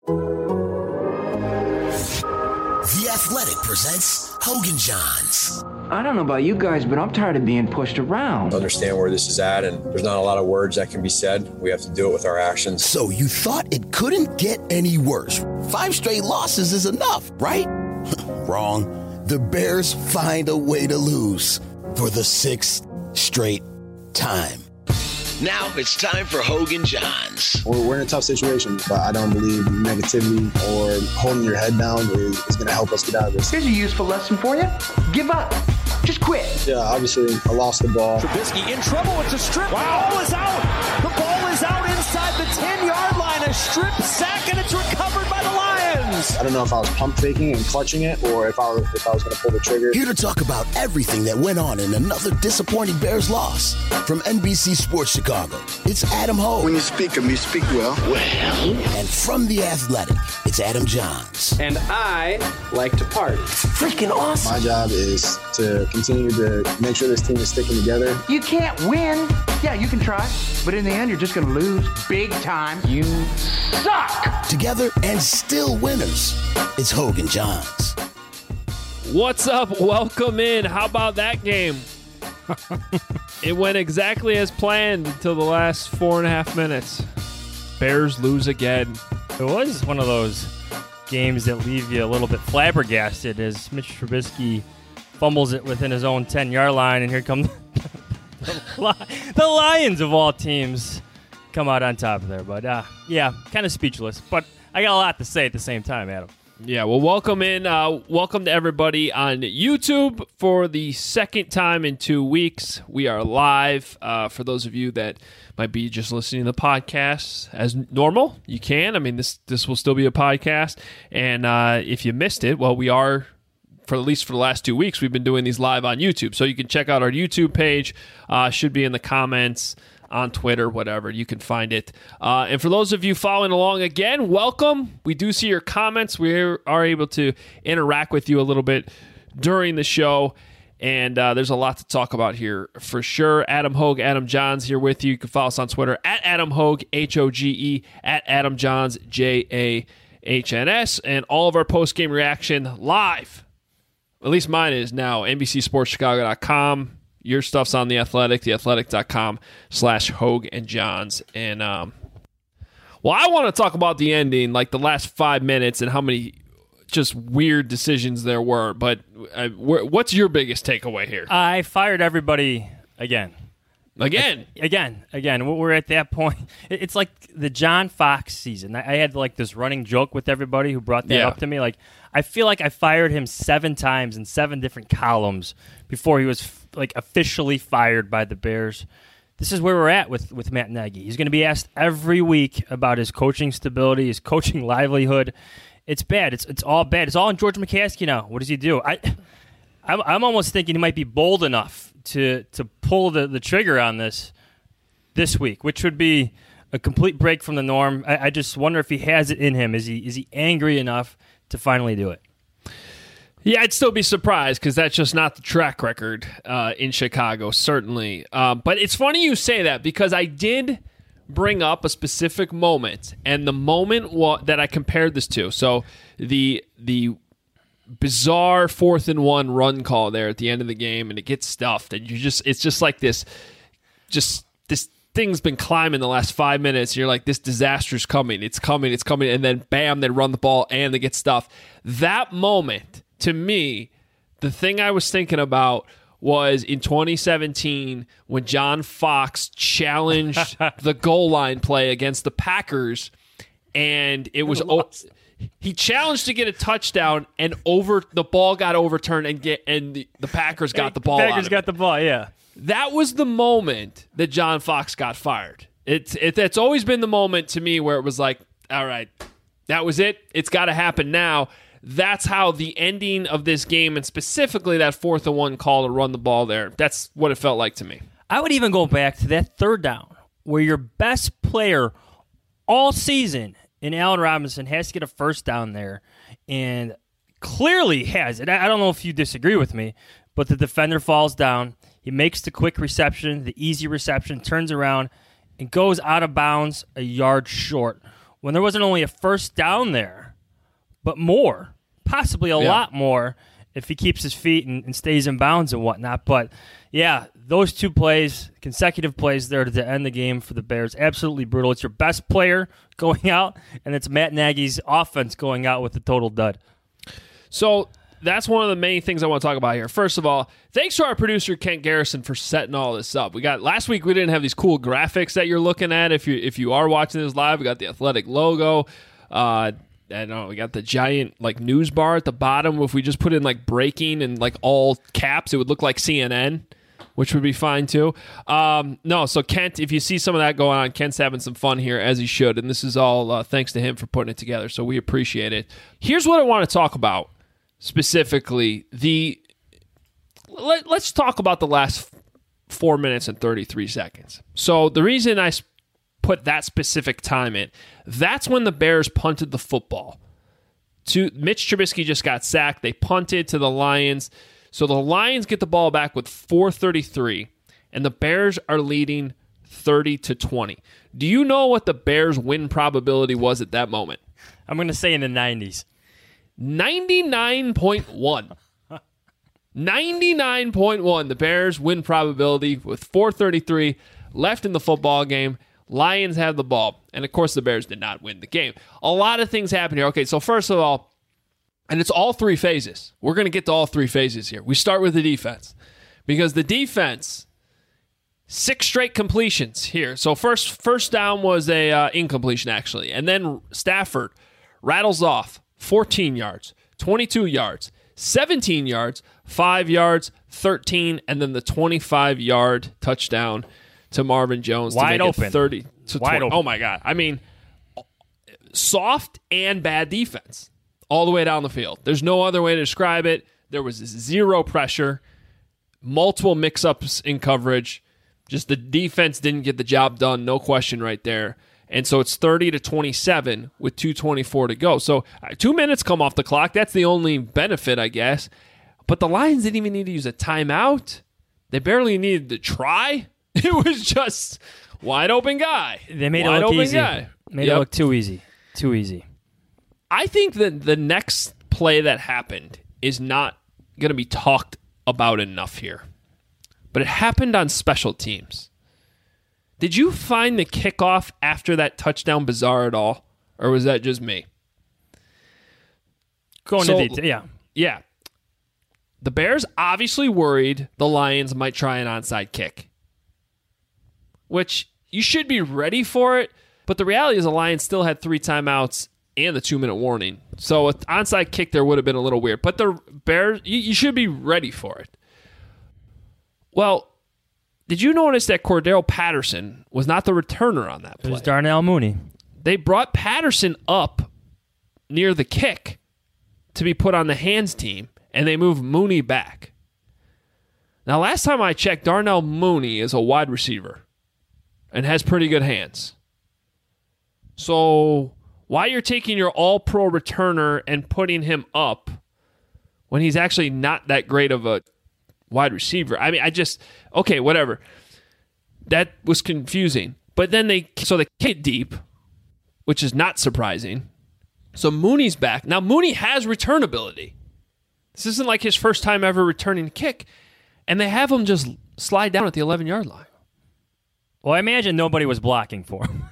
The Athletic presents Hogan Johns. I don't know about you guys, but I'm tired of being pushed around. Understand where this is at, and there's not a lot of words that can be said. We have to do it with our actions. So you thought it couldn't get any worse. 5 straight losses is enough, right? Wrong. The Bears find a way to lose for the 6th straight time. Now it's time for Hogan Johns. We're in a tough situation, but I don't believe negativity or holding your head down is going to help us get out of this. Here's a useful lesson for you. Give up. Just quit. Yeah, obviously, I lost the ball. Trubisky in trouble. It's a strip. Wow. The ball is out. The ball is out inside the 10-yard line. A strip sack, and it's recovered by the Lions. I don't know if I was pump faking and clutching it or if I was going to pull the trigger. Here to talk about everything that went on in another disappointing Bears loss from NBC Sports Chicago, it's Adam Hogue. When you speak of me, speak well. And from The Athletic, it's Adam Johns. And I like to party. Freaking awesome. My job is to continue to make sure this team is sticking together. You can't win. Yeah, you can try, but in the end, you're just going to lose big time. You suck. Together and still winners, it's Hogan Johns. What's up? Welcome in. How about that game? It went exactly as planned until the last 4.5 minutes. Bears lose again. It was one of those games that leave you a little bit flabbergasted as Mitch Trubisky fumbles it within his own 10-yard line, and here come the Lions of all teams come out on top of there. But, yeah, kind of speechless. But I got a lot to say at the same time, Adam. Yeah, well, welcome in. Welcome to everybody on YouTube for the second time in 2 weeks. We are live. For those of you that might be just listening to the podcast as normal, you can. I mean, this will still be a podcast. And if you missed it, well, we are, for at least for the last 2 weeks, we've been doing these live on YouTube. So you can check out our YouTube page. Should be in the comments on Twitter, whatever. You can find it. And for those of you following along again, welcome. We do see your comments. We are able to interact with you a little bit during the show. And there's a lot to talk about here for sure. Adam Hogue, Adam Johns here with you. You can follow us on Twitter at Adam Hogue, Hoge, at Adam Johns, JAHNS. And all of our post-game reaction live. At least mine is now, NBCSportsChicago.com. Your stuff's on The Athletic, theathletic.com/Hogue and Johns. And, well, I want to talk about the ending, like the last 5 minutes and how many just weird decisions there were. But what's your biggest takeaway here? I fired everybody again. Again. We're at that point. It's like the John Fox season. I had like this running joke with everybody who brought that up to me. Like, I feel like I fired him 7 times in 7 different columns before he was like officially fired by the Bears. This is where we're at with Matt Nagy. He's going to be asked every week about his coaching stability, his coaching livelihood. It's bad. It's all bad. It's all on George McCaskey now. What does he do? I'm almost thinking he might be bold enough to pull the trigger on this week, which would be a complete break from the norm. I just wonder if he has it in him. Is he angry enough to finally do it? Yeah, I'd still be surprised because that's just not the track record in Chicago, certainly. But it's funny you say that because I did bring up a specific moment, and the moment that I compared this to. So the bizarre 4th and 1 run call there at the end of the game, and it gets stuffed, and it's just like this thing's been climbing the last 5 minutes. And you're like, this disaster's coming. It's coming. And then bam, they run the ball and they get stuffed. That moment, to me, the thing I was thinking about was in 2017 when John Fox challenged the goal line play against the Packers, and it was he challenged to get a touchdown, and the ball got overturned, and the Packers got the ball. Packers got the ball, yeah. That was the moment that John Fox got fired. It's always been the moment to me where it was like, all right, that was it. It's got to happen now. That's how the ending of this game, and specifically that 4th and 1 call to run the ball there, that's what it felt like to me. I would even go back to that 3rd down where your best player all season in Allen Robinson has to get a first down there, and clearly has it. I don't know if you disagree with me, but the defender falls down. He makes the quick reception, the easy reception, turns around, and goes out of bounds a yard short, when there wasn't only a first down there, but more, possibly a lot more, if he keeps his feet and stays in bounds and whatnot. But, yeah, those 2 plays, consecutive plays there to end the game for the Bears, absolutely brutal. It's your best player going out, and it's Matt Nagy's offense going out with the total dud. So that's one of the main things I want to talk about here. First of all, thanks to our producer, Kent Garrison, for setting all this up. Last week we didn't have these cool graphics that you're looking at. If you are watching this live, we got the Athletic logo. I don't know, we got the giant news bar at the bottom. If we just put in breaking and all caps, it would look like CNN, which would be fine too. So Kent, if you see some of that going on, Kent's having some fun here, as he should, and this is all thanks to him for putting it together, so we appreciate it. Here's what I want to talk about specifically. Let's talk about the last 4 minutes and 33 seconds. So the reason I put that specific time in, that's when the Bears punted the football. Mitch Trubisky just got sacked. They punted to the Lions. So the Lions get the ball back with 4:33, and the Bears are leading 30-20. Do you know what the Bears' win probability was at that moment? I'm going to say in the 90s. 99.1. 99.1. The Bears' win probability with 4:33 left in the football game. Lions have the ball. And, of course, the Bears did not win the game. A lot of things happen here. Okay, so first of all, and it's all 3 phases. We're going to get to all 3 phases here. We start with the defense. Because the defense, 6 straight completions here. So first down was a incompletion, actually. And then Stafford rattles off 14 yards, 22 yards, 17 yards, 5 yards, 13, and then the 25-yard touchdown to Marvin Jones wide to make open. It 30 to 20. Open. Oh my God! I mean, soft and bad defense all the way down the field. There's no other way to describe it. There was 0 pressure, multiple mix-ups in coverage. Just the defense didn't get the job done. No question, right there. And so it's 30-27 with 2:24 to go. So 2 minutes come off the clock. That's the only benefit, I guess. But the Lions didn't even need to use a timeout. They barely needed to try. It was just wide open guy. They made it look easy. Made it look too easy. Too easy. I think that the next play that happened is not going to be talked about enough here. But it happened on special teams. Did you find the kickoff after that touchdown bizarre at all? Or was that just me? Going to detail, yeah. Yeah. The Bears obviously worried the Lions might try an onside kick, which you should be ready for it. But the reality is the Lions still had 3 timeouts and the 2-minute warning. So an onside kick there would have been a little weird. But the Bears, you should be ready for it. Well, did you notice that Cordero Patterson was not the returner on that play? It was Darnell Mooney. They brought Patterson up near the kick to be put on the hands team, and they moved Mooney back. Now, last time I checked, Darnell Mooney is a wide receiver and has pretty good hands. So why you're taking your all-pro returner and putting him up when he's actually not that great of a wide receiver? I mean, okay, whatever. That was confusing. But then they kick deep, which is not surprising. So Mooney's back. Now, Mooney has return ability. This isn't like his first time ever returning a kick. And they have him just slide down at the 11-yard line. Well, I imagine nobody was blocking for him.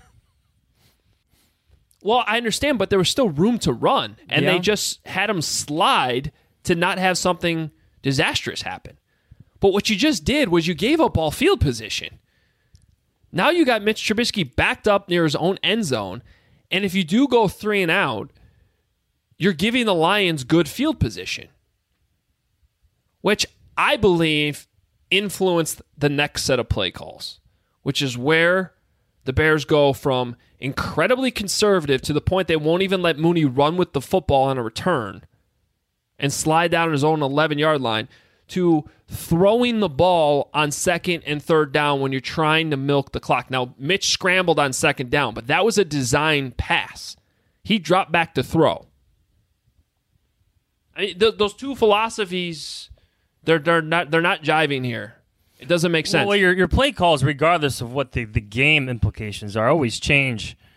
Well, I understand, but there was still room to run. And they just had him slide to not have something disastrous happen. But what you just did was you gave up all field position. Now you got Mitch Trubisky backed up near his own end zone. And if you do go 3 and out, you're giving the Lions good field position, which I believe influenced the next set of play calls, which is where the Bears go from incredibly conservative to the point they won't even let Mooney run with the football on a return and slide down his own 11-yard line to throwing the ball on 2nd and 3rd down when you're trying to milk the clock. Now, Mitch scrambled on 2nd down, but that was a design pass. He dropped back to throw. I mean, those two philosophies, they're not jiving here. It doesn't make sense. Well, your play calls, regardless of what the game implications are, always change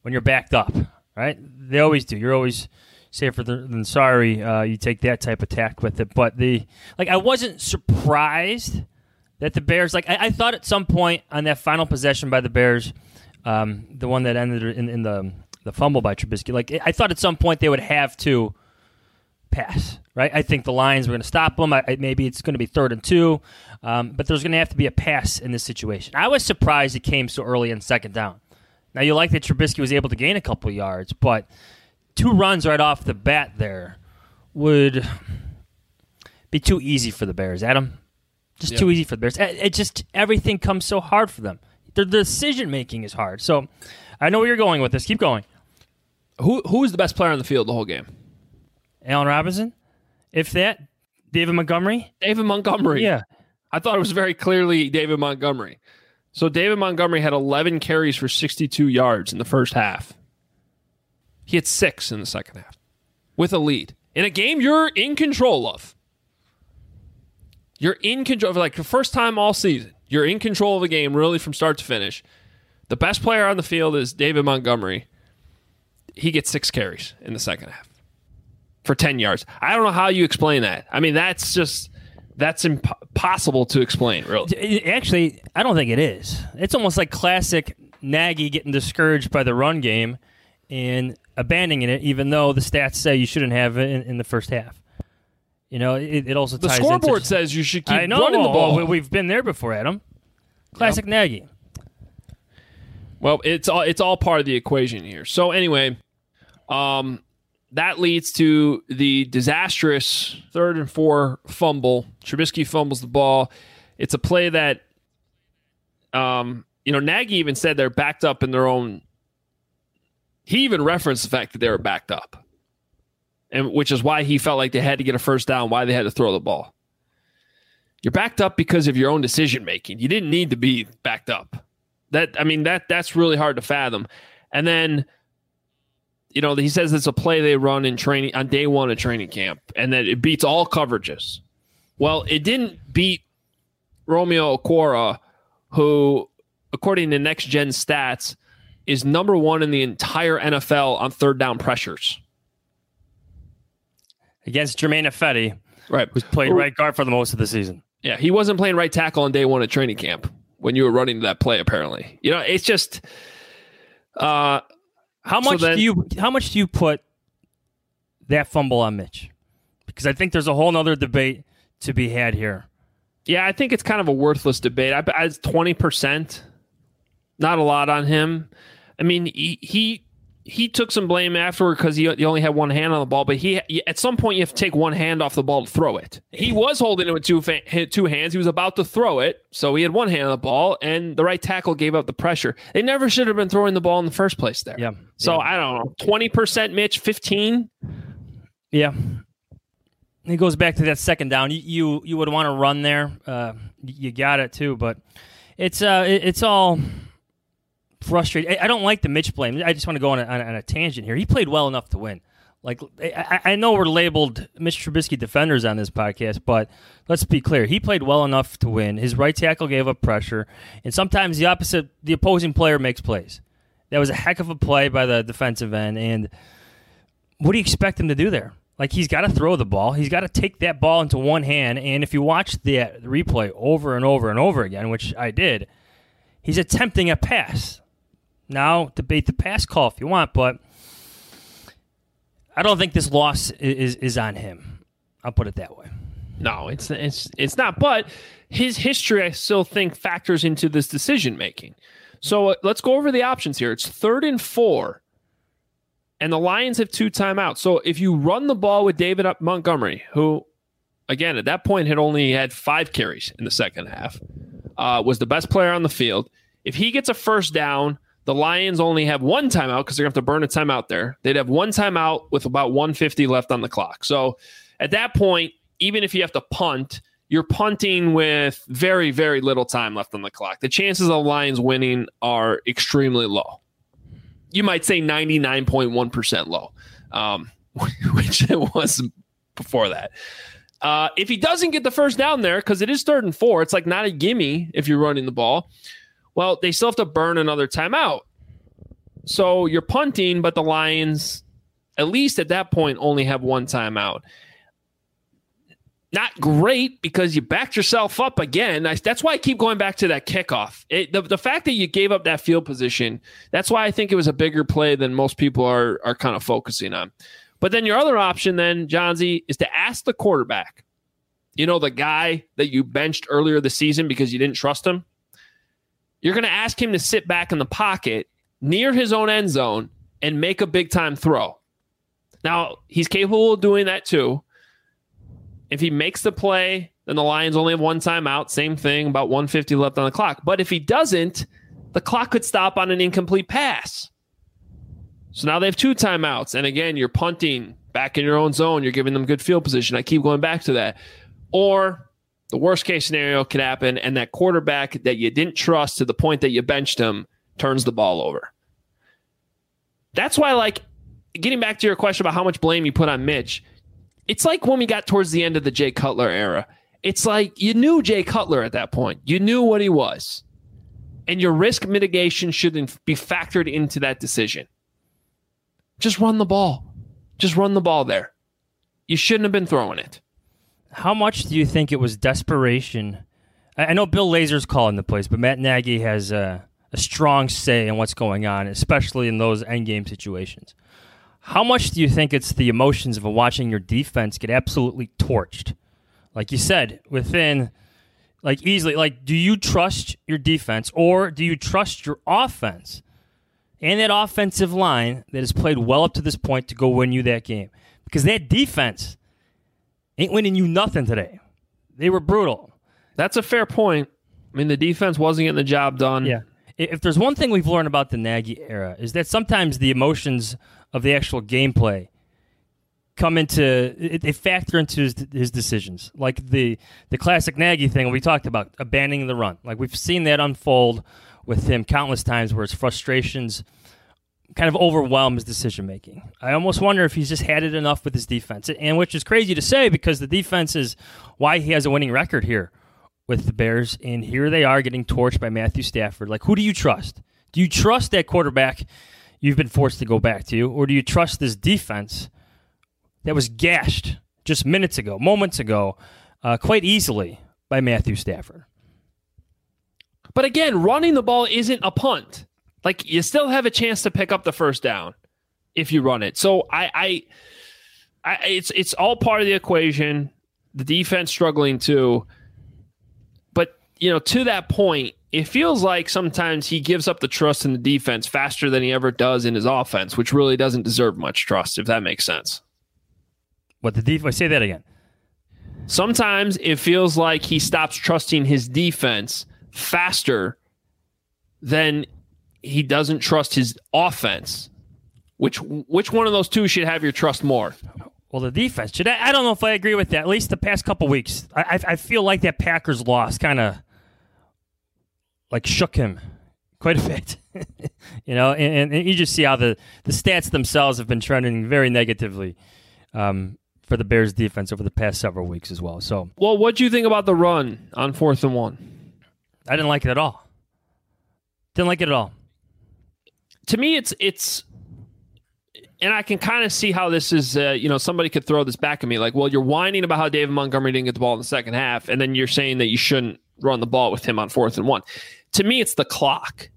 when you're backed up, right? They always do. You're always safer than sorry. You take that type of tack with it. But I wasn't surprised that the Bears, I thought at some point on that final possession by the Bears, the one that ended in the fumble by Trubisky, I thought at some point they would have to pass, right? I think the Lions were going to stop them. Maybe it's going to be 3rd and 2, but there's going to have to be a pass in this situation. I was surprised it came so early in 2nd down. Now, you like that Trubisky was able to gain a couple of yards, but 2 runs right off the bat there would be too easy for the Bears, Adam. Just too easy for the Bears. Everything comes so hard for them. The decision-making is hard. So I know where you're going with this. Keep going. Who was the best player on the field the whole game? Allen Robinson? If that, David Montgomery? David Montgomery. Yeah. I thought it was very clearly David Montgomery. So David Montgomery had 11 carries for 62 yards in the first half. He had 6 in the second half with a lead. In a game you're in control of. You're in control of, the first time all season. You're in control of the game really from start to finish. The best player on the field is David Montgomery. He gets 6 carries in the second half for 10 yards. I don't know how you explain that. I mean, that's impossible to explain, really. Actually, I don't think it is. It's almost like classic Nagy getting discouraged by the run game and abandoning it, even though the stats say you shouldn't have it in the first half. It also ties the scoreboard says you should keep running the ball. We've been there before, Adam. Classic Nagy. Well, it's all part of the equation here. So anyway, that leads to the disastrous 3rd and 4 fumble. Trubisky fumbles the ball. It's a play that, Nagy even said they're backed up in their own. He even referenced the fact that they were backed up, and which is why he felt like they had to get a first down, why they had to throw the ball. You're backed up because of your own decision making. You didn't need to be backed up. That's really hard to fathom. And then, he says it's a play they run in training on day 1 of training camp, and that it beats all coverages. Well, it didn't beat Romeo Okwara, who, according to Next Gen Stats, is number 1 in the entire NFL on 3rd down pressures. Against Jermaine Ifedi, right, who's played right guard for the most of the season. Yeah, he wasn't playing right tackle on day 1 of training camp when you were running that play, apparently. It's just... How much do you put that fumble on Mitch? Because I think there's a whole other debate to be had here. Yeah, I think it's kind of a worthless debate. I 20%, not a lot on him. I mean, he took some blame afterward because he only had one hand on the ball, but at some point you have to take one hand off the ball to throw it. He was holding it with two hands. He was about to throw it, so he had one hand on the ball, and the right tackle gave up the pressure. They never should have been throwing the ball in the first place there. Yeah. So I don't know, 20% Mitch, 15. Yeah. It goes back to that 2nd down. You would want to run there. You got it too, but it's all frustrating. I don't like the Mitch blame. I just want to go on a tangent here. He played well enough to win. I know we're labeled Mitch Trubisky defenders on this podcast, but let's be clear. He played well enough to win. His right tackle gave up pressure, and sometimes the opposing player makes plays. That was a heck of a play by the defensive end, and what do you expect him to do there? He's got to throw the ball. He's got to take that ball into one hand, and if you watch the replay over and over and over again, which I did, he's attempting a pass. Now, debate the pass call if you want, but I don't think this loss is on him. I'll put it that way. No, it's not. But his history, I still think, factors into this decision making. So let's go over the options here. It's 3rd and 4, and the Lions have 2 timeouts. So if you run the ball with David Montgomery, who, again, at that point had only had 5 carries in the second half, was the best player on the field. If he gets a first down, the Lions only have 1 timeout because they're going to have to burn a timeout there. They'd have 1 timeout with about 1:50 left on the clock. So at that point, even if you have to punt, you're punting with very, very little time left on the clock. The chances of the Lions winning are extremely low. You might say 99.1% low, which it was before that. If he doesn't get the first down there, because it is 3rd and 4, it's not a gimme if you're running the ball. Well, they still have to burn another timeout. So you're punting, but the Lions, at least at that point, only have one timeout. Not great because you backed yourself up again. That's why I keep going back to that kickoff. The fact that you gave up that field position, that's why I think it was a bigger play than most people are kind of focusing on. But then your other option then, Johnsy, is to ask the quarterback, the guy that you benched earlier this season because you didn't trust him. You're going to ask him to sit back in the pocket near his own end zone and make a big-time throw. Now, he's capable of doing that too. If he makes the play, then the Lions only have one timeout. Same thing, about 150 left on the clock. But if he doesn't, the clock could stop on an incomplete pass. So now they have two timeouts. And again, you're punting back in your own zone. You're giving them good field position. I keep going back to that. Or the worst case scenario could happen, and that quarterback that you didn't trust to the point that you benched him turns the ball over. That's why, getting back to your question about how much blame you put on Mitch, it's like when we got towards the end of the Jay Cutler era. It's like you knew Jay Cutler at that point. You knew what he was. And your risk mitigation shouldn't be factored into that decision. Just run the ball. Just run the ball there. You shouldn't have been throwing it. How much do you think it was desperation? I know Bill Lazor's calling the plays, but Matt Nagy has a strong say in what's going on, especially in those endgame situations. How much do you think it's the emotions of watching your defense get absolutely torched? Like you said, within, easily, do you trust your defense or do you trust your offense and that offensive line that has played well up to this point to go win you that game? Because that defense ain't winning you nothing today. They were brutal. That's a fair point. I mean, the defense wasn't getting the job done. Yeah. If there's one thing we've learned about the Nagy era is that sometimes the emotions of the actual gameplay they factor into his decisions. Like the classic Nagy thing we talked about, abandoning the run. Like we've seen that unfold with him countless times where his frustrations kind of overwhelm his decision-making. I almost wonder if he's just had it enough with his defense, and which is crazy to say because the defense is why he has a winning record here with the Bears, and here they are getting torched by Matthew Stafford. Who do you trust? Do you trust that quarterback you've been forced to go back to, or do you trust this defense that was gashed just moments ago, quite easily by Matthew Stafford? But again, running the ball isn't a punt. You still have a chance to pick up the first down if you run it. So it's all part of the equation. The defense struggling too. But, to that point, it feels like sometimes he gives up the trust in the defense faster than he ever does in his offense, which really doesn't deserve much trust, if that makes sense. What the defense? Say that again. Sometimes it feels like he stops trusting his defense faster than he doesn't trust his offense. Which one of those two should have your trust more? Well, the defense should. I don't know if I agree with that. At least the past couple weeks, I feel like that Packers loss kind of shook him quite a bit. And you just see how the stats themselves have been trending very negatively for the Bears defense over the past several weeks as well. So, well, what do you think about the run on 4th and 1? I didn't like it at all. Didn't like it at all. To me, it's, and I can kind of see how this is, somebody could throw this back at me. You're whining about how David Montgomery didn't get the ball in the second half, and then you're saying that you shouldn't run the ball with him on 4th and 1. To me, it's the clock.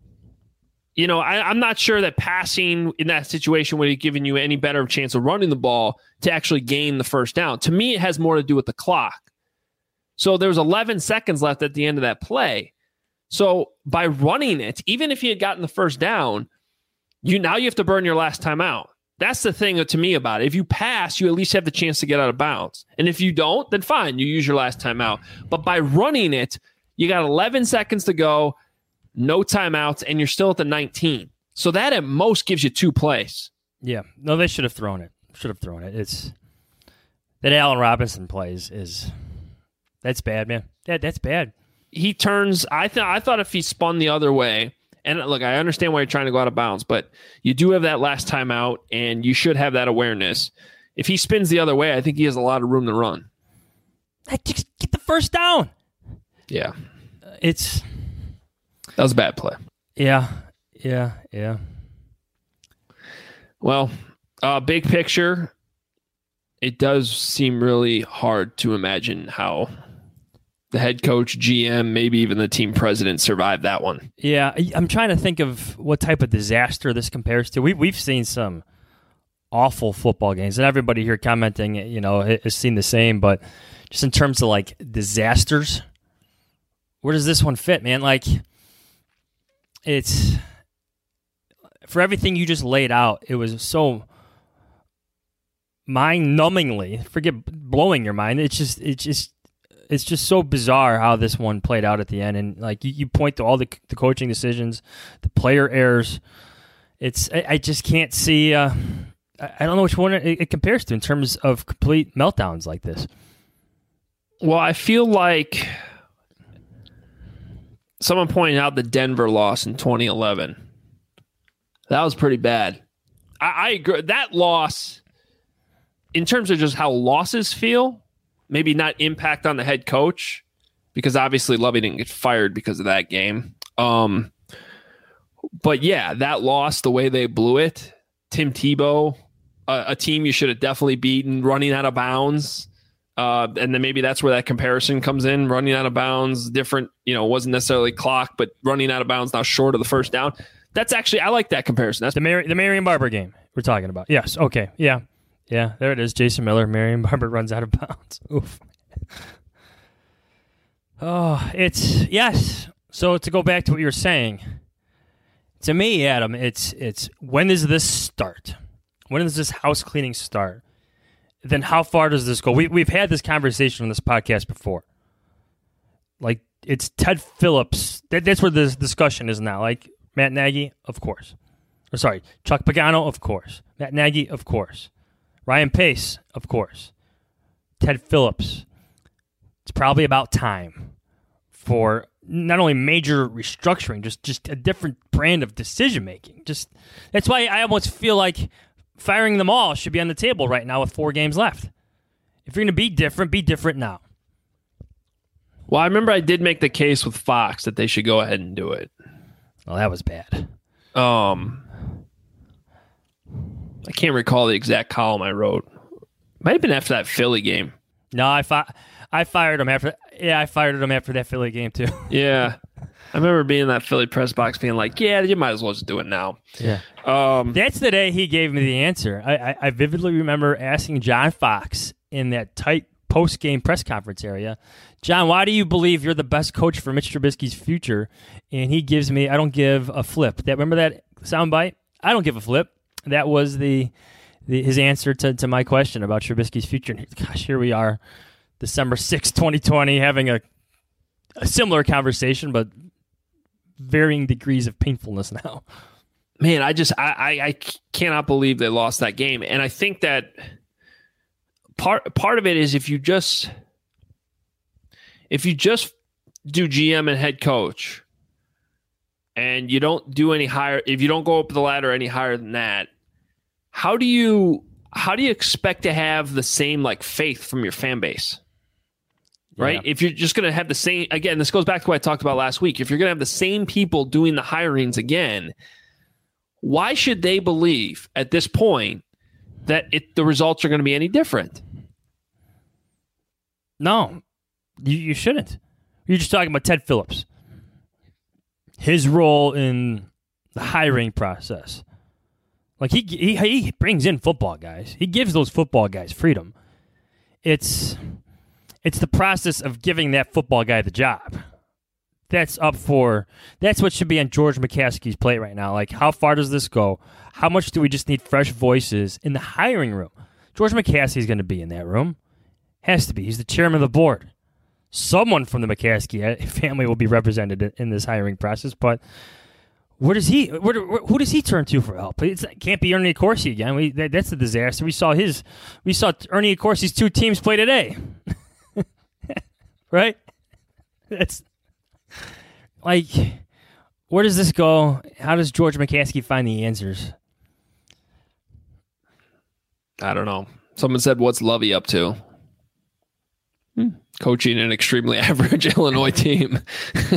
I'm not sure that passing in that situation would have given you any better chance of running the ball to actually gain the first down. To me, it has more to do with the clock. So there was 11 seconds left at the end of that play. So by running it, even if he had gotten the first down, you have to burn your last timeout. That's the thing to me about it. If you pass, you at least have the chance to get out of bounds. And if you don't, then fine, you use your last timeout. But by running it, you got 11 seconds to go, no timeouts, and you're still at the 19. So that at most gives you 2 plays. Yeah. No, they should have thrown it. It's that Allen Robinson plays that's bad, man. That's bad. He turns, I thought if he spun the other way, and look, I understand why you're trying to go out of bounds, but you do have that last timeout, and you should have that awareness. If he spins the other way, I think he has a lot of room to run. Just get the first down. Yeah. That was a bad play. Yeah. Well, big picture, it does seem really hard to imagine how the head coach, GM, maybe even the team president survived that one. Yeah, I'm trying to think of what type of disaster this compares to. We've seen some awful football games, and everybody here commenting, has seen the same. But just in terms of like disasters, where does this one fit, man? Like, it's for everything you just laid out. It was so mind-numbingly, forget blowing your mind. It's just so bizarre how this one played out at the end. And like you point to all the coaching decisions, the player errors. I just can't see. I don't know which one it compares to in terms of complete meltdowns like this. Well, I feel like someone pointed out the Denver loss in 2011. That was pretty bad. I agree. That loss, in terms of just how losses feel, maybe not impact on the head coach, because obviously Lovie didn't get fired because of that game. But yeah, that loss, the way they blew it, Tim Tebow, a team you should have definitely beaten, running out of bounds. And then maybe that's where that comparison comes in, running out of bounds, different, wasn't necessarily clock, but running out of bounds now short of the first down. That's actually, I like that comparison. That's the Marion Barber game we're talking about. Yes. Okay. Yeah. Yeah, there it is. Jason Miller, Marion Barber runs out of bounds. Oof. Oh, yes. So to go back to what you were saying, to me, Adam, it's when does this start? When does this house cleaning start? Then how far does this go? We've had this conversation on this podcast before. Like, it's Ted Phillips. That's where this discussion is now. Like, Matt Nagy, of course. Chuck Pagano, of course. Matt Nagy, of course. Ryan Pace, of course. Ted Phillips. It's probably about time for not only major restructuring, just a different brand of decision making. Just that's why I almost feel like firing them all should be on the table right now with 4 games left. If you're going to be different now. Well, I remember I did make the case with Fox that they should go ahead and do it. Well, that was bad. I can't recall the exact column I wrote. Might have been after that Philly game. No, I fired him after. Yeah, I fired him after that Philly game too. Yeah, I remember being in that Philly press box, being like, "Yeah, you might as well just do it now." Yeah. That's the day he gave me the answer. I vividly remember asking John Fox in that tight post-game press conference area, "John, why do you believe you're the best coach for Mitch Trubisky's future?" And he gives me, "I don't give a flip." Remember that soundbite? I don't give a flip. That was his answer to my question about Trubisky's future. And gosh, here we are, December 6th, 2020, having a similar conversation, but varying degrees of painfulness now. Man, I cannot believe they lost that game. And I think that part of it is if you just do GM and head coach, and you don't do any higher, if you don't go up the ladder any higher than that, how do you expect to have the same like faith from your fan base? Right? Yeah. If you're just going to have the same, again, this goes back to what I talked about last week. If you're going to have the same people doing the hirings again, why should they believe at this point that the results are going to be any different? No, you shouldn't. You're just talking about Ted Phillips. His role in the hiring process. Like, he brings in football guys. He gives those football guys freedom. It's the process of giving that football guy the job. That's what should be on George McCaskey's plate right now. Like, how far does this go? How much do we just need fresh voices in the hiring room? George McCaskey's going to be in that room. Has to be. He's the chairman of the board. Someone from the McCaskey family will be represented in this hiring process, but who does he turn to for help? It can't be Ernie Accorsi again. That's a disaster. We saw Ernie Accorsi's 2 teams play today. Right? That's like, where does this go? How does George McCaskey find the answers? I don't know. Someone said, "What's Lovie up to?" Coaching an extremely average Illinois team.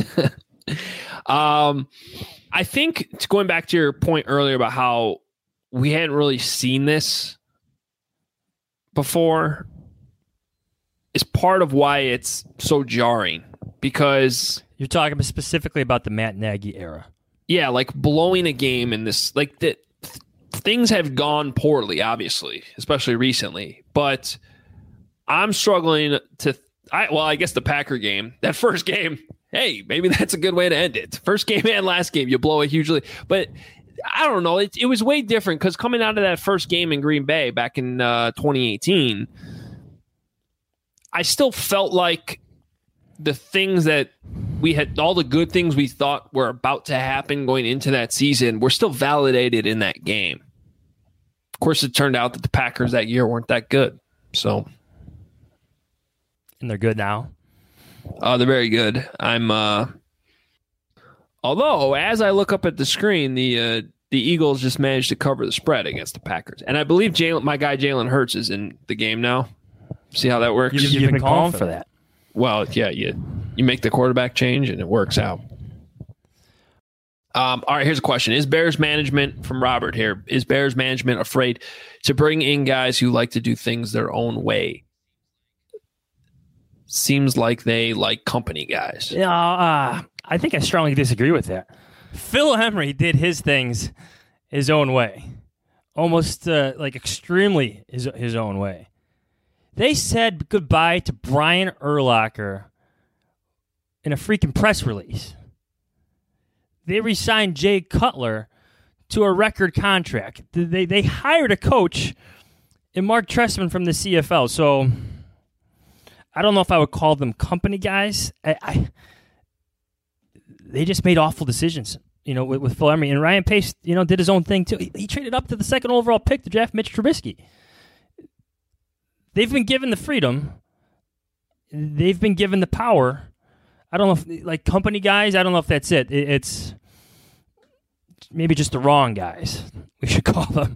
I think, going back to your point earlier about how we hadn't really seen this before is part of why it's so jarring, because you're talking specifically about the Matt Nagy era. Yeah, like blowing a game in this, like things have gone poorly, obviously, especially recently. But I'm struggling to. I guess the Packer game, that first game. Hey, maybe that's a good way to end it. First game and last game, you blow it hugely. But I don't know. It was way different because coming out of that first game in Green Bay back in 2018, I still felt like the things that we had, all the good things we thought were about to happen going into that season, were still validated in that game. Of course, it turned out that the Packers that year weren't that good. So, and they're good now. They're very good. Although, as I look up at the screen, the Eagles just managed to cover the spread against the Packers, and I believe my guy Jalen Hurts is in the game now. See how that works? You've been calling for that. Well, yeah, you make the quarterback change and it works out. All right, here's a question. Is Bears management, from Robert here, is Bears management afraid to bring in guys who like to do things their own way? Seems like they like company guys. Yeah, I think I strongly disagree with that. Phil Emery did his things his own way. Almost like extremely his own way. They said goodbye to Brian Urlacher in a freaking press release. They re-signed Jay Cutler to a record contract. They hired a coach in Mark Trestman from the CFL. So I don't know if I would call them company guys. They just made awful decisions, with Phil Emery. And Ryan Pace, did his own thing too. He traded up to the second overall pick to draft Mitch Trubisky. They've been given the freedom. They've been given the power. I don't know if, like, company guys, I don't know if that's it. It's maybe just the wrong guys, we should call them.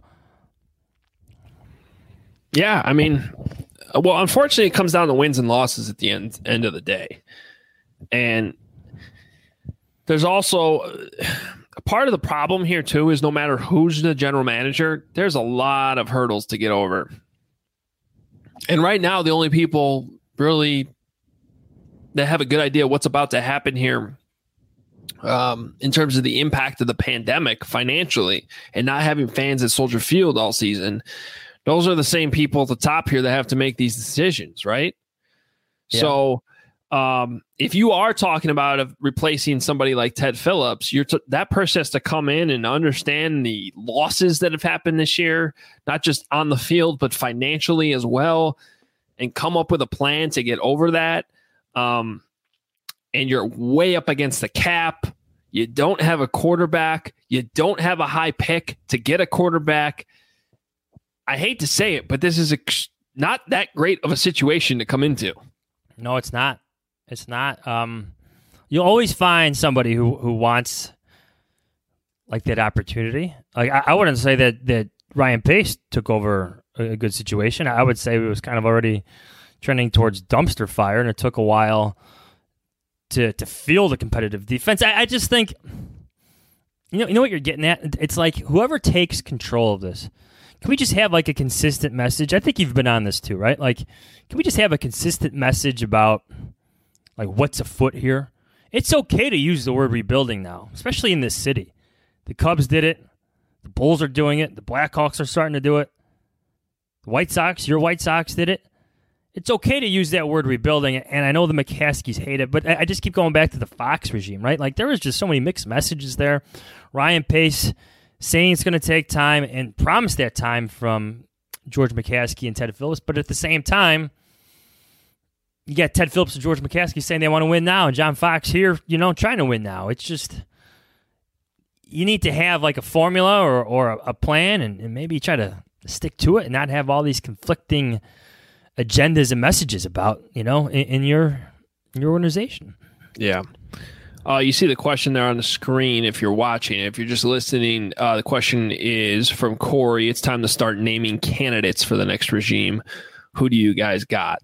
Yeah, I mean, well, unfortunately, it comes down to wins and losses at the end of the day. And there's also a part of the problem here, too, is no matter who's the general manager, there's a lot of hurdles to get over. And right now, the only people really that have a good idea what's about to happen here in terms of the impact of the pandemic financially and not having fans at Soldier Field all season, those are the same people at the top here that have to make these decisions, right? Yeah. So if you are talking about replacing somebody like Ted Phillips, that person has to come in and understand the losses that have happened this year, not just on the field, but financially as well, and come up with a plan to get over that. And you're way up against the cap. You don't have a quarterback. You don't have a high pick to get a quarterback. I hate to say it, but this is not that great of a situation to come into. No, it's not. It's not. You'll always find somebody who wants like that opportunity. Like I wouldn't say that Ryan Pace took over a good situation. I would say it was kind of already trending towards dumpster fire, and it took a while to feel the competitive defense. I just think, you know what you're getting at? It's like whoever takes control of this, can we just have like a consistent message? I think you've been on this too, right? Like, can we just have a consistent message about like what's afoot here? It's okay to use the word rebuilding now, especially in this city. The Cubs did it. The Bulls are doing it. The Blackhawks are starting to do it. The White Sox, your White Sox did it. It's okay to use that word rebuilding, and I know the McCaskies hate it, but I just keep going back to the Fox regime, right? Like, there was just so many mixed messages there. Ryan Pace saying it's going to take time and promised that time from George McCaskey and Ted Phillips, but at the same time, you got Ted Phillips and George McCaskey saying they want to win now, and John Fox here, trying to win now. It's just, you need to have like a formula or a plan and maybe try to stick to it and not have all these conflicting agendas and messages about, in your organization. Yeah. You see the question there on the screen if you're watching. If you're just listening, the question is from Corey. It's time to start naming candidates for the next regime. Who do you guys got?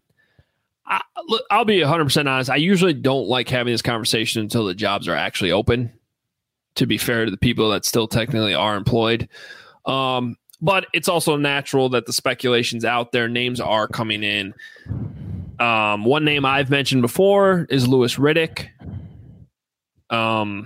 I'll be 100% honest. I usually don't like having this conversation until the jobs are actually open, to be fair to the people that still technically are employed. But it's also natural that the speculation's out there. Names are coming in. One name I've mentioned before is Louis Riddick. I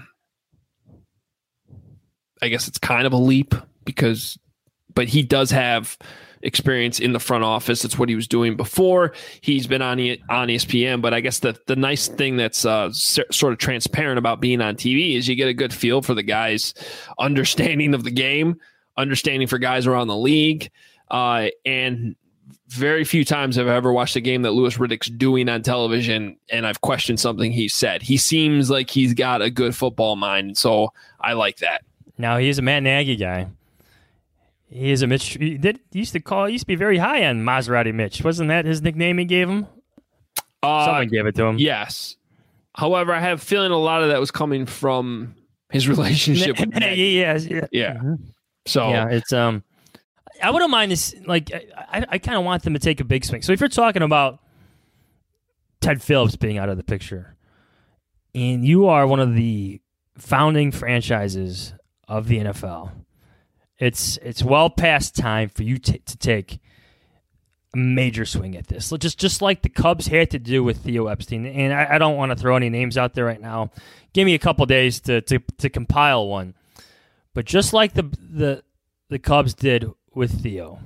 guess it's kind of a leap but he does have experience in the front office. That's what he was doing before. He's been on ESPN, but I guess the nice thing that's sort of transparent about being on TV is you get a good feel for the guy's understanding of the game, understanding for guys around the league, and very few times I've ever watched a game that Louis Riddick's doing on television and I've questioned something he said. He seems like he's got a good football mind, so I like that. Now, he's a Matt Nagy guy. He is a Mitch. He used to be very high on Maserati Mitch. Wasn't that his nickname he gave him? Someone gave it to him. Yes. However, I have a feeling a lot of that was coming from his relationship with Nagy. Yeah. Mm-hmm. So yeah, it's I wouldn't mind this. Like, I kind of want them to take a big swing. So if you're talking about Ted Phillips being out of the picture, and you are one of the founding franchises of the NFL, it's well past time for you to take a major swing at this. Just like the Cubs had to do with Theo Epstein. And I don't want to throw any names out there right now. Give me a couple days to compile one. But just like the Cubs did with Theo,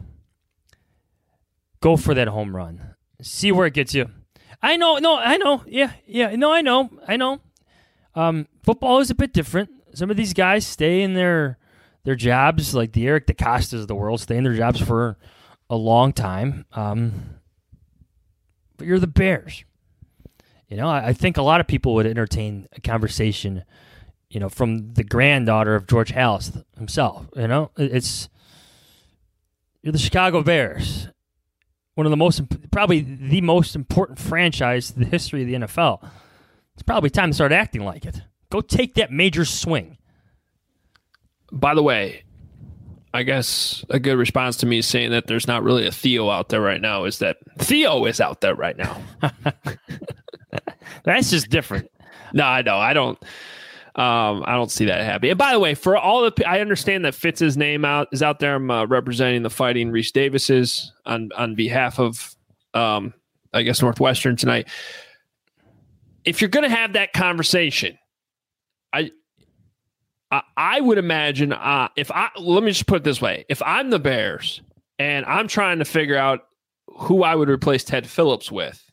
go for that home run. See where it gets you. I know. Yeah. No, I know. Football is a bit different. Some of these guys stay in their jobs, like the Eric DeCostas of the world, stay in their jobs for a long time. But you're the Bears. I think a lot of people would entertain a conversation, from the granddaughter of George Halas himself. You're the Chicago Bears, one of probably the most important franchise in the history of the NFL. It's probably time to start acting like it. Go take that major swing. By the way, I guess a good response to me is saying that there's not really a Theo out there right now is that Theo is out there right now. That's just different. No, I know. I don't see that happening. And by the way, for all I understand that Fitz's name is out there. I'm representing the Fighting Reese Davises on behalf of, I guess, Northwestern tonight. If you're going to have that conversation, I would imagine let me just put it this way. If I'm the Bears and I'm trying to figure out who I would replace Ted Phillips with,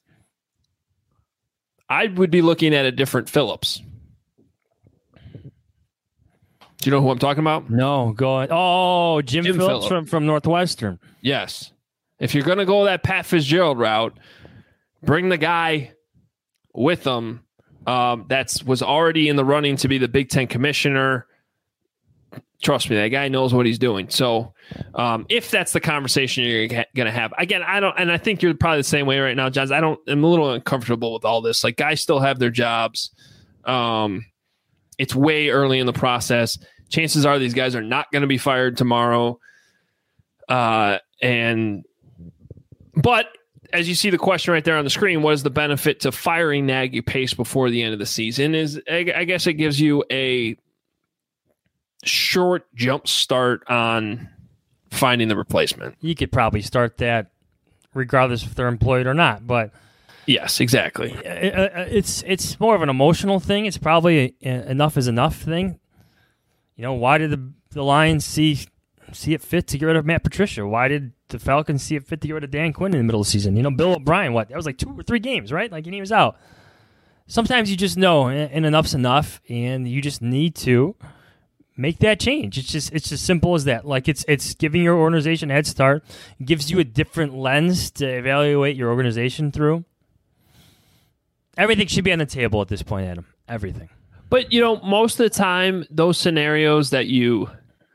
I would be looking at a different Phillips. Do you know who I'm talking about? No, go ahead. Oh, Jim Phillips from Northwestern. Yes. If you're going to go that Pat Fitzgerald route, bring the guy with them that was already in the running to be the Big Ten commissioner. Trust me, that guy knows what he's doing. So if that's the conversation you're going to have, again, I think you're probably the same way right now, Johns. I'm a little uncomfortable with all this. Like, guys still have their jobs. It's way early in the process. Chances are these guys are not going to be fired tomorrow. But as you see the question right there on the screen, what is the benefit to firing Nagy Pace before the end of the season? I guess it gives you a short jump start on finding the replacement. You could probably start that regardless if they're employed or not. But yes, exactly. It's more of an emotional thing. It's probably enough is enough thing. Why did the Lions see it fit to get rid of Matt Patricia? Why did the Falcons see it fit to get rid of Dan Quinn in the middle of the season? Bill O'Brien, that was like 2 or 3 games, right? And he was out. Sometimes you just know, and enough's enough, and you just need to make that change. It's just simple as that. Like, it's giving your organization a head start. It gives you a different lens to evaluate your organization through. Everything should be on the table at this point, Adam. Everything. But, most of the time, those scenarios that you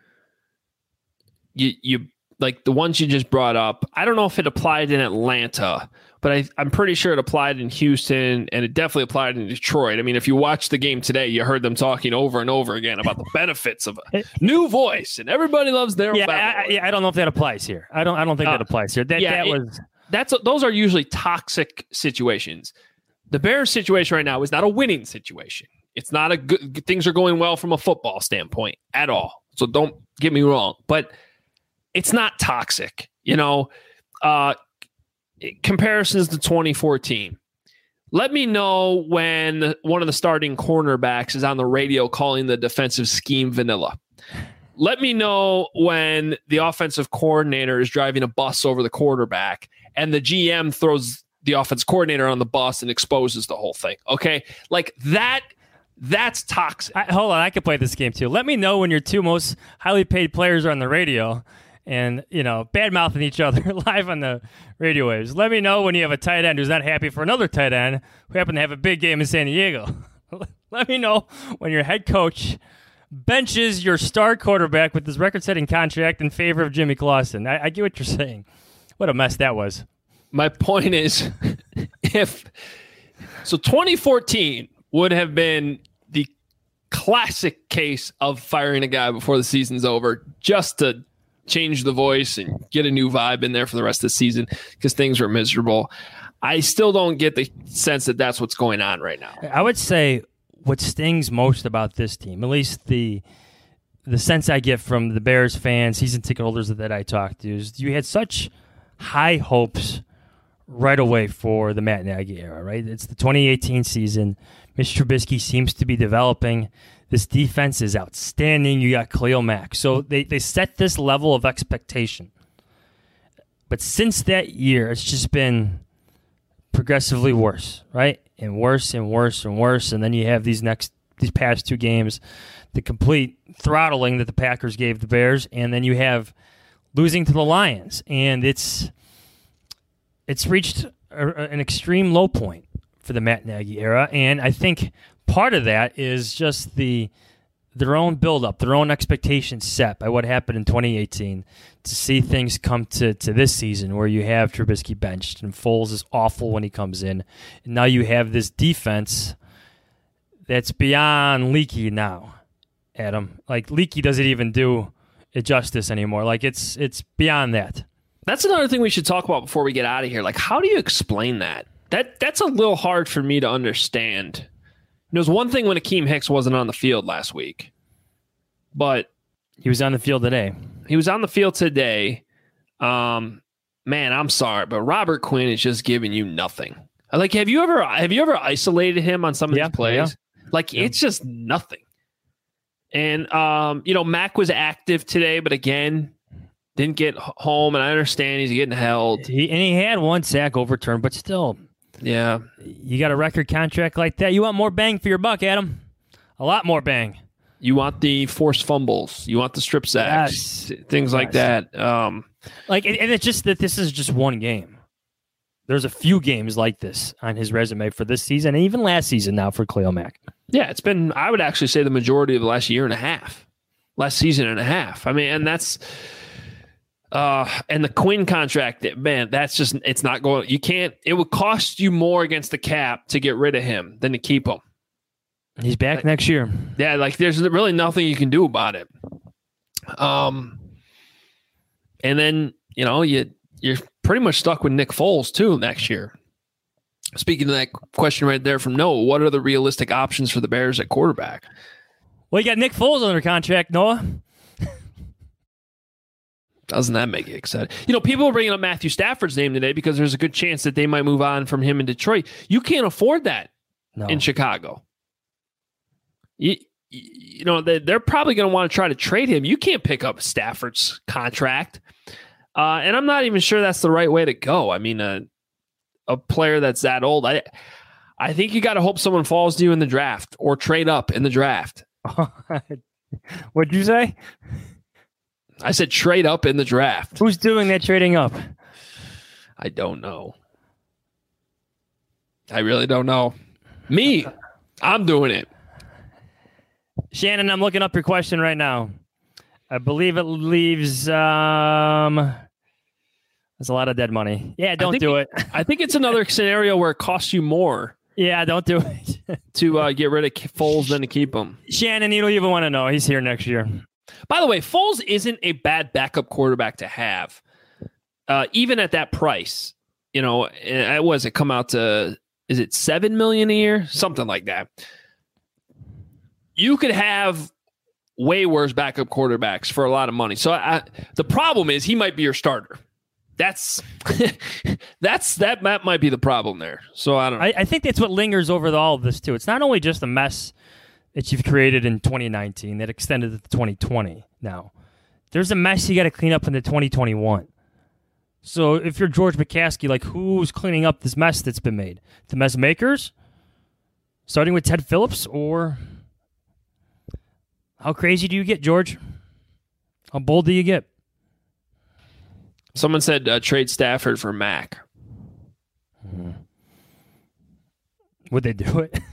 like the ones you just brought up, I don't know if it applied in Atlanta, but I'm pretty sure it applied in Houston, and it definitely applied in Detroit. I mean, if you watched the game today, you heard them talking over and over again about the benefits of a new voice, and everybody loves their I don't know if that applies here. I don't think that applies here. Those are usually toxic situations. The Bears situation right now is not a winning situation. It's not a good. Things are going well from a football standpoint at all. So don't get me wrong, but it's not toxic. Comparisons to 2014. Let me know when one of the starting cornerbacks is on the radio calling the defensive scheme vanilla. Let me know when the offensive coordinator is driving a bus over the quarterback and the GM throws the offense coordinator on the bus and exposes the whole thing. Okay? Like that's toxic. Hold on, I could play this game too. Let me know when your two most highly paid players are on the radio and, bad-mouthing each other live on the radio waves. Let me know when you have a tight end who's not happy for another tight end who happened to have a big game in San Diego. Let me know when your head coach benches your star quarterback with his record-setting contract in favor of Jimmy Clausen. I get what you're saying. What a mess that was. My point is, 2014 would have been the classic case of firing a guy before the season's over just to change the voice and get a new vibe in there for the rest of the season because things were miserable. I still don't get the sense that that's what's going on right now. I would say what stings most about this team, at least the sense I get from the Bears fans, season ticket holders that I talked to, is you had such high hopes right away for the Matt Nagy era, right? It's the 2018 season. Mitch Trubisky seems to be developing. This defense is outstanding. You got Khalil Mack. So they set this level of expectation. But since that year, it's just been progressively worse, right? And worse and worse and worse. And then you have these past two games, the complete throttling that the Packers gave the Bears, and then you have losing to the Lions. And it's reached an extreme low point for the Matt Nagy era. And I think part of that is just their own buildup, their own expectations set by what happened in 2018 to see things come to this season where you have Trubisky benched and Foles is awful when he comes in. And now you have this defense that's beyond leaky now, Adam. Like, leaky doesn't even do it justice anymore. Like, it's beyond that. That's another thing we should talk about before we get out of here. Like, how do you explain that? That's a little hard for me to understand. There's one thing when Akeem Hicks wasn't on the field last week, but he was on the field today. He was on the field today. Man, I'm sorry, but Robert Quinn is just giving you nothing. Like, have you ever isolated him on some of these plays? Yeah. Like, it's just nothing. And Mac was active today, but again, didn't get home. And I understand he's getting held. He had one sack overturned, but still. Yeah. You got a record contract like that. You want more bang for your buck, Adam. A lot more bang. You want the forced fumbles. You want the strip sacks. Yes. Things like that. And it's just that this is just one game. There's a few games like this on his resume for this season and even last season now for Khalil Mack. Yeah, it's been, I would actually say, the majority of the last year and a half. Last season and a half. I mean, and that's... and the Quinn contract, man, that's just, it's not going, you can't, it would cost you more against the cap to get rid of him than to keep him. He's back next year. Yeah, like there's really nothing you can do about it. And then, you're pretty much stuck with Nick Foles too next year. Speaking of that question right there from Noah, what are the realistic options for the Bears at quarterback? Well, you got Nick Foles under contract, Noah. Doesn't that make it exciting? People are bringing up Matthew Stafford's name today because there's a good chance that they might move on from him in Detroit. You can't afford that in Chicago. They're probably going to want to try to trade him. You can't pick up Stafford's contract. And I'm not even sure that's the right way to go. I mean, a player that's that old, I think you got to hope someone falls to you in the draft or trade up in the draft. What'd you say? I said trade up in the draft. Who's doing that trading up? I don't know. I really don't know. Me. I'm doing it. Shannon, I'm looking up your question right now. I believe it leaves there's a lot of dead money. Yeah, don't do it. I think it's another scenario where it costs you more. Yeah, don't do it. to get rid of Foles than to keep him. Shannon, you don't even want to know. He's here next year. By the way, Foles isn't a bad backup quarterback to have, even at that price. What does it come out to? Is it $7 million a year? Something like that. You could have way worse backup quarterbacks for a lot of money. So the problem is he might be your starter. That might be the problem there. So I don't know. I think that's what lingers over all of this too. It's not only just the mess that you've created in 2019 that extended to 2020 now. There's a mess you got to clean up into 2021. So if you're George McCaskey, like, who's cleaning up this mess that's been made? The mess makers? Starting with Ted Phillips? Or how crazy do you get, George? How bold do you get? Someone said trade Stafford for Mac. Would they do it?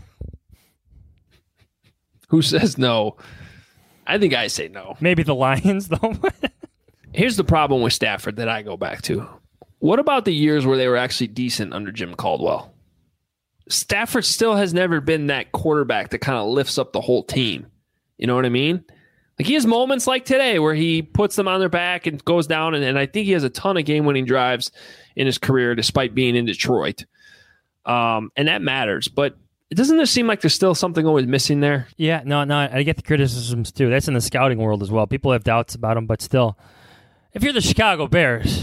Who says no? I think I say no. Maybe the Lions, though. Here's the problem with Stafford that I go back to. What about the years where they were actually decent under Jim Caldwell? Stafford still has never been that quarterback that kind of lifts up the whole team. You know what I mean? Like, he has moments like today where he puts them on their back and goes down, and I think he has a ton of game-winning drives in his career despite being in Detroit. And that matters. But doesn't there seem like there's still something always missing there? Yeah, no, I get the criticisms too. That's in the scouting world as well. People have doubts about him, but still, if you're the Chicago Bears,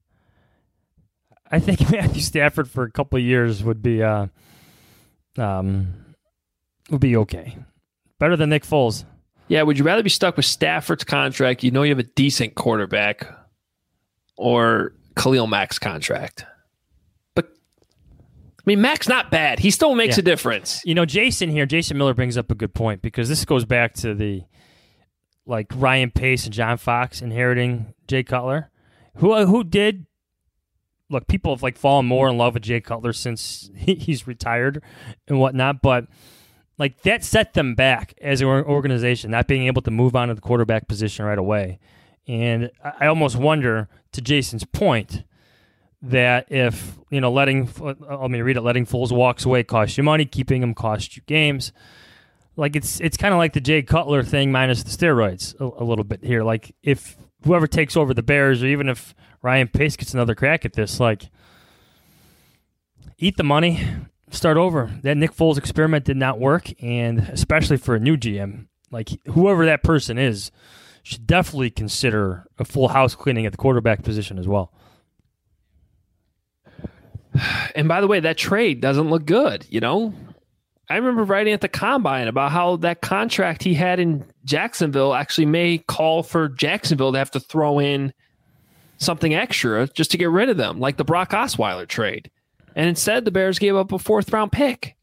I think Matthew Stafford for a couple of years would be okay. Better than Nick Foles. Yeah, would you rather be stuck with Stafford's contract, you know you have a decent quarterback, or Khalil Mack's contract? But, I mean, Mack's not bad. He still makes a difference. You know, Jason Miller brings up a good point, because this goes back to the, like, Ryan Pace and John Fox inheriting Jay Cutler, who did, look, people have, like, fallen more in love with Jay Cutler since he's retired and whatnot, but like, that set them back as an organization, not being able to move on to the quarterback position right away. And I almost wonder, to Jason's point, that if, you know, letting Foles walks away costs you money, keeping him costs you games. Like, it's kind of like the Jay Cutler thing minus the steroids a little bit here. Like, if whoever takes over the Bears, or even if Ryan Pace gets another crack at this, like, eat the money. Start over. That Nick Foles experiment did not work, and especially for a new GM, like, whoever that person is, should definitely consider a full house cleaning at the quarterback position as well. And by the way, that trade doesn't look good, you know? I remember writing at the Combine about how that contract he had in Jacksonville actually may call for Jacksonville to have to throw in something extra just to get rid of them, like the Brock Osweiler trade. And instead, the Bears gave up a 4th-round pick.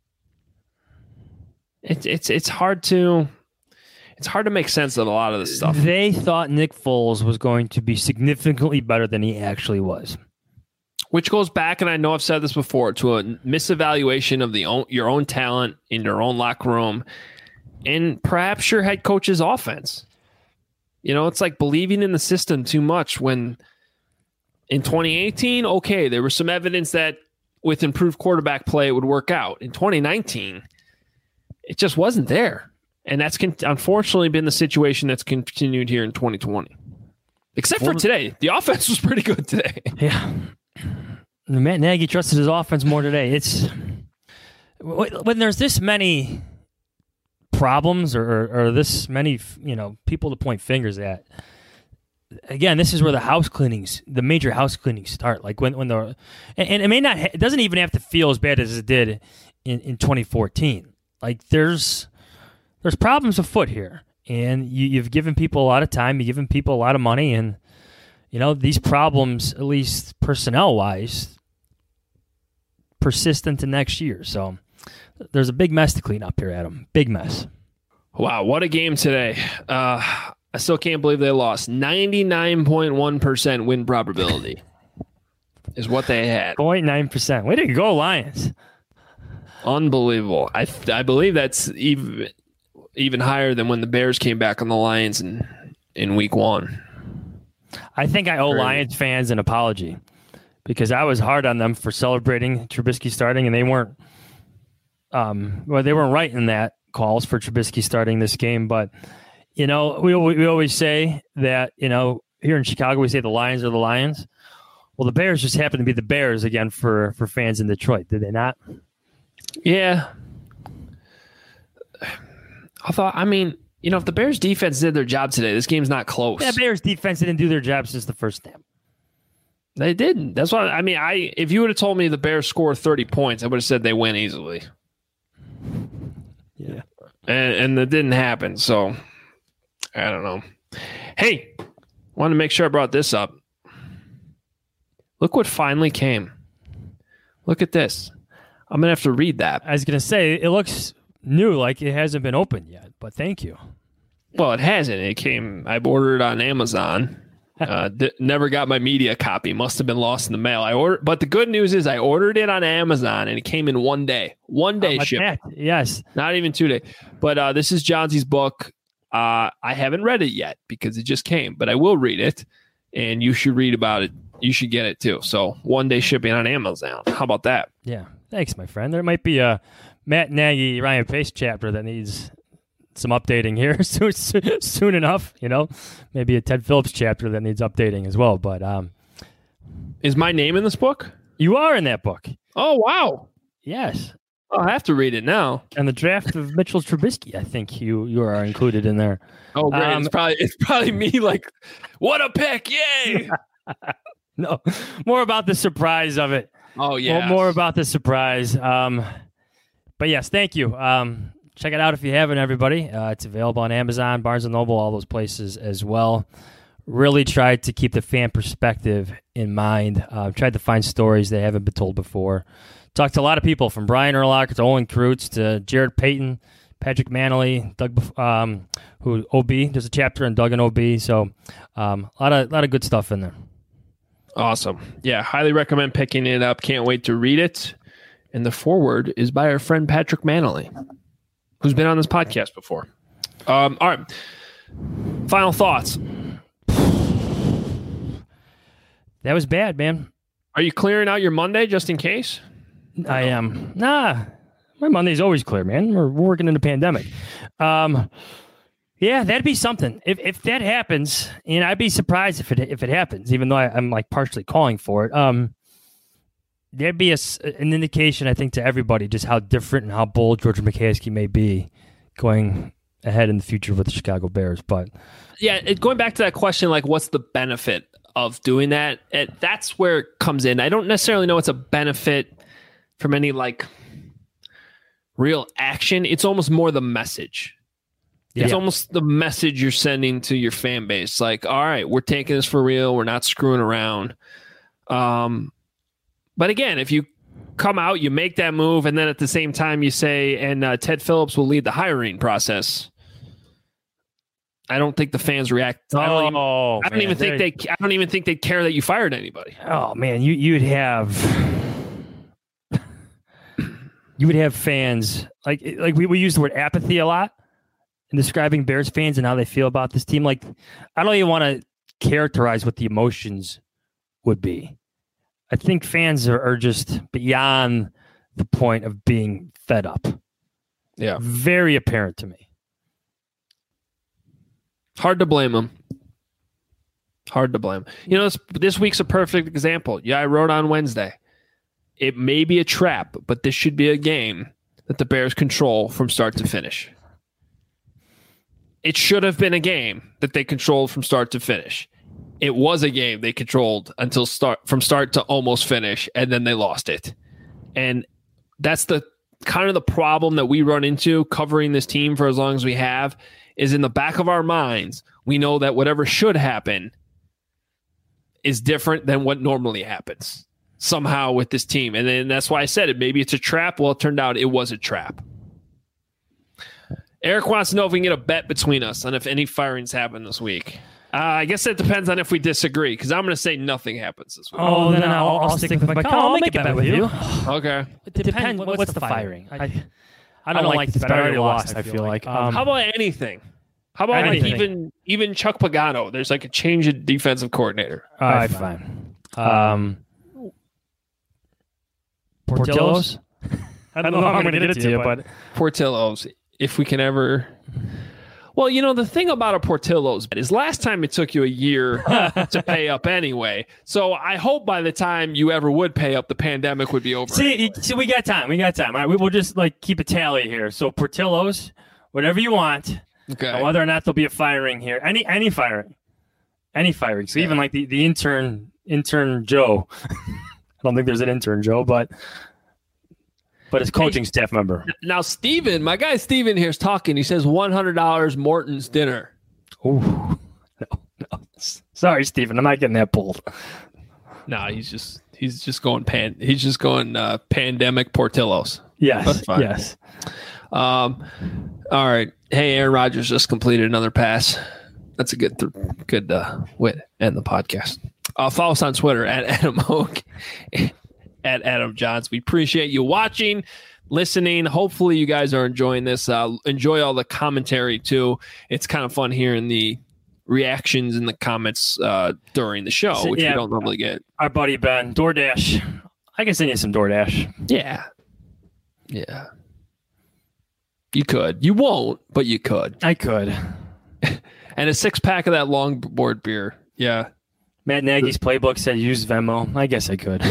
It's hard to make sense of a lot of this stuff. They thought Nick Foles was going to be significantly better than he actually was, which goes back, and I know I've said this before, to a misevaluation of your own talent in your own locker room, and perhaps your head coach's offense. You know, it's like believing in the system too much. When in 2018, okay, there was some evidence that with improved quarterback play, it would work out. In 2019, it just wasn't there. And that's unfortunately been the situation that's continued here in 2020. Except for today. The offense was pretty good today. Yeah. Matt Nagy trusted his offense more today. It's when there's this many problems or this many, you know, people to point fingers at. Again, this is where the major house cleanings start. Like when and it may not, it doesn't even have to feel as bad as it did in 2014. Like there's problems afoot here, and you've given people a lot of time, you've given people a lot of money, and you know these problems, at least personnel wise, persist into next year. So there's a big mess to clean up here, Adam. Big mess. Wow, what a game today. I still can't believe they lost. 99.1% win probability is what they had. 0.9%. Way to go, Lions. Unbelievable. I believe that's even higher than when the Bears came back on the Lions in week 1. I think I owe Lions fans an apology because I was hard on them for celebrating Trubisky starting, and they weren't right in that calls for Trubisky starting this game, but you know, we always say that, you know, here in Chicago, we say the Lions are the Lions. Well, the Bears just happen to be the Bears again for fans in Detroit. Did they not? Yeah. I mean, if the Bears defense did their job today, this game's not close. Yeah, Bears defense didn't do their job since the first snap. They didn't. That's why if you would have told me the Bears score 30 points, I would have said they win easily. Yeah. And that didn't happen. So I don't know. Hey, wanted to make sure I brought this up. Look what finally came. Look at this. I'm going to have to read that. I was going to say, it looks new, like it hasn't been opened yet, but thank you. Well, it hasn't. It came, I ordered it on Amazon. Never got my media copy. Must have been lost in the mail. But the good news is I ordered it on Amazon and it came in 1 day. 1 day shipping. Yes. Not even 2 days. But this is Johnson's book. I haven't read it yet because it just came, but I will read it and you should read about it. You should get it too. So 1 day shipping on Amazon. How about that? Yeah. Thanks, my friend. There might be a Matt Nagy, Ryan Pace chapter that needs some updating here soon enough. Maybe a Ted Phillips chapter that needs updating as well. But is my name in this book? You are in that book. Oh, wow. Yes. I'll have to read it now. And the draft of Mitchell Trubisky, I think you are included in there. Oh, great. It's probably me like, what a pick. Yay. No, more about the surprise of it. Oh, yeah. More about the surprise. But yes, thank you. Check it out if you haven't, everybody. It's available on Amazon, Barnes & Noble, all those places as well. Really tried to keep the fan perspective in mind. Tried to find stories that haven't been told before. Talked to a lot of people, from Brian Urlacher to Owen Kreutz to Jared Payton, Patrick Manley, Doug, who OB. There's a chapter on Doug and OB. So a lot of good stuff in there. Awesome. Yeah, highly recommend picking it up. Can't wait to read it. And the foreword is by our friend Patrick Manley, who's been on this podcast before. All right. Final thoughts. That was bad, man. Are you clearing out your Monday just in case? I am. Nah, my Monday's always clear, man. We're working in a pandemic. Yeah, that'd be something. If that happens, and I'd be surprised if it happens, even though I'm like partially calling for it. There'd be an indication, I think, to everybody just how different and how bold George McCaskey may be going ahead in the future with the Chicago Bears. But yeah, going back to that question, like, what's the benefit of doing that? That's where it comes in. I don't necessarily know it's a benefit from any like real action. It's almost more the message. Yeah. It's almost the message you're sending to your fan base. Like, all right, we're taking this for real. We're not screwing around. But again, if you come out, you make that move, and then at the same time you say, and Ted Phillips will lead the hiring process. I don't think the fans react. I don't even think they'd care that you fired anybody. Oh man, you would have fans like we use the word apathy a lot in describing Bears fans and how they feel about this team. Like, I don't even want to characterize what the emotions would be. I think fans are just beyond the point of being fed up. Yeah. Very apparent to me. Hard to blame them. This week's a perfect example. Yeah, I wrote on Wednesday. It may be a trap, but this should be a game that the Bears control from start to finish. It should have been a game that they controlled from start to finish. It was a game they controlled from start to almost finish, and then they lost it. And that's the kind of the problem that we run into covering this team for as long as we have, is in the back of our minds, we know that whatever should happen is different than what normally happens somehow with this team. And then that's why I said it. Maybe it's a trap. Well, it turned out it was a trap. Eric wants to know if we can get a bet between us on if any firings happen this week. I guess it depends on if we disagree, because I'm going to say nothing happens this week. Oh, then I'll stick with my call. I'll make a bet with you. Okay. It depends. What's the firing? I don't like this bet. I already lost, I feel like. How about anything? How about like even Chuck Pagano? There's like a change in defensive coordinator. All right, fine. Portillo's? I don't know how I'm going to get it to you, but Portillo's, if we can ever... Well, the thing about a Portillo's is last time it took you a year to pay up anyway. So I hope by the time you ever would pay up, the pandemic would be over. See, we got time. All right, we will just keep a tally here. So Portillo's, whatever you want. Okay. Now, whether or not there'll be a firing here, any firing. So even like the intern Joe. I don't think there's an intern Joe, but his coaching staff member. Now, Steven, my guy Steven here is talking. He says $100 Morton's dinner. Oh, no. Sorry, Steven, I'm not getting that pulled. No, he's just going pandemic Portillo's. Yes. That's fine. Yes. All right. Hey, Aaron Rodgers just completed another pass. That's a good way to end the podcast. Follow us on Twitter at Adam Hoke, at Adam Johns. We appreciate you watching, listening. Hopefully you guys are enjoying this. Enjoy all the commentary too. It's kind of fun hearing the reactions in the comments during the show, which we don't normally get. Our buddy Ben, DoorDash. I can send you some DoorDash. Yeah. You could. You won't, but you could. I could. And a 6-pack of that longboard beer. Yeah. Matt Nagy's playbook said use Venmo. I guess I could.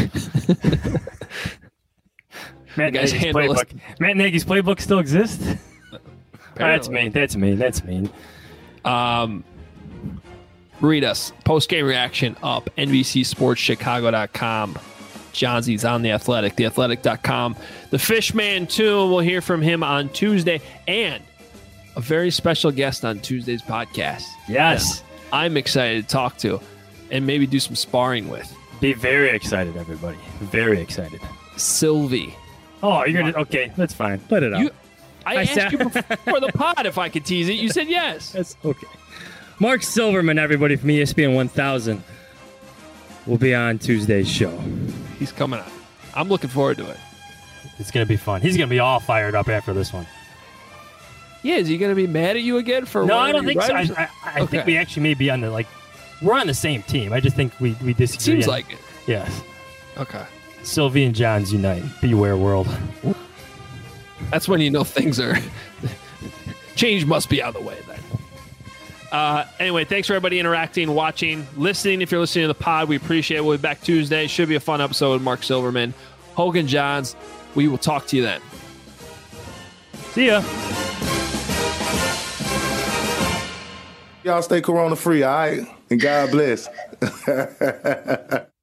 Matt Nagy's playbook still exists? That's mean. Read us. Post-game reaction up. NBCSportsChicago.com. Johnsy's on The Athletic. TheAthletic.com. The Fishman, too. We'll hear from him on Tuesday. And a very special guest on Tuesday's podcast. Yes. I'm excited to talk to and maybe do some sparring with. Be very excited, everybody. Very excited. Sylvie. Oh, you're going to... Okay, that's fine. Let it out. I asked you before the pod if I could tease it. You said yes. That's okay. Mark Silverman, everybody, from ESPN 1000 will be on Tuesday's show. He's coming on. I'm looking forward to it. It's going to be fun. He's going to be all fired up after this one. Yeah, is he going to be mad at you again for? No, I don't think so. I think we actually may be on the we're on the same team. I just think we disagree. Seems like it. Yes. Okay. Sylvie and Johns unite. Beware, world. That's when you know things are change must be out of the way then. Anyway, thanks for everybody interacting, watching, listening. If you're listening to the pod, we appreciate it. We'll be back Tuesday. Should be a fun episode with Mark Silverman, Hogan Johns. We will talk to you then. See ya. Y'all stay corona free, all right? And God bless.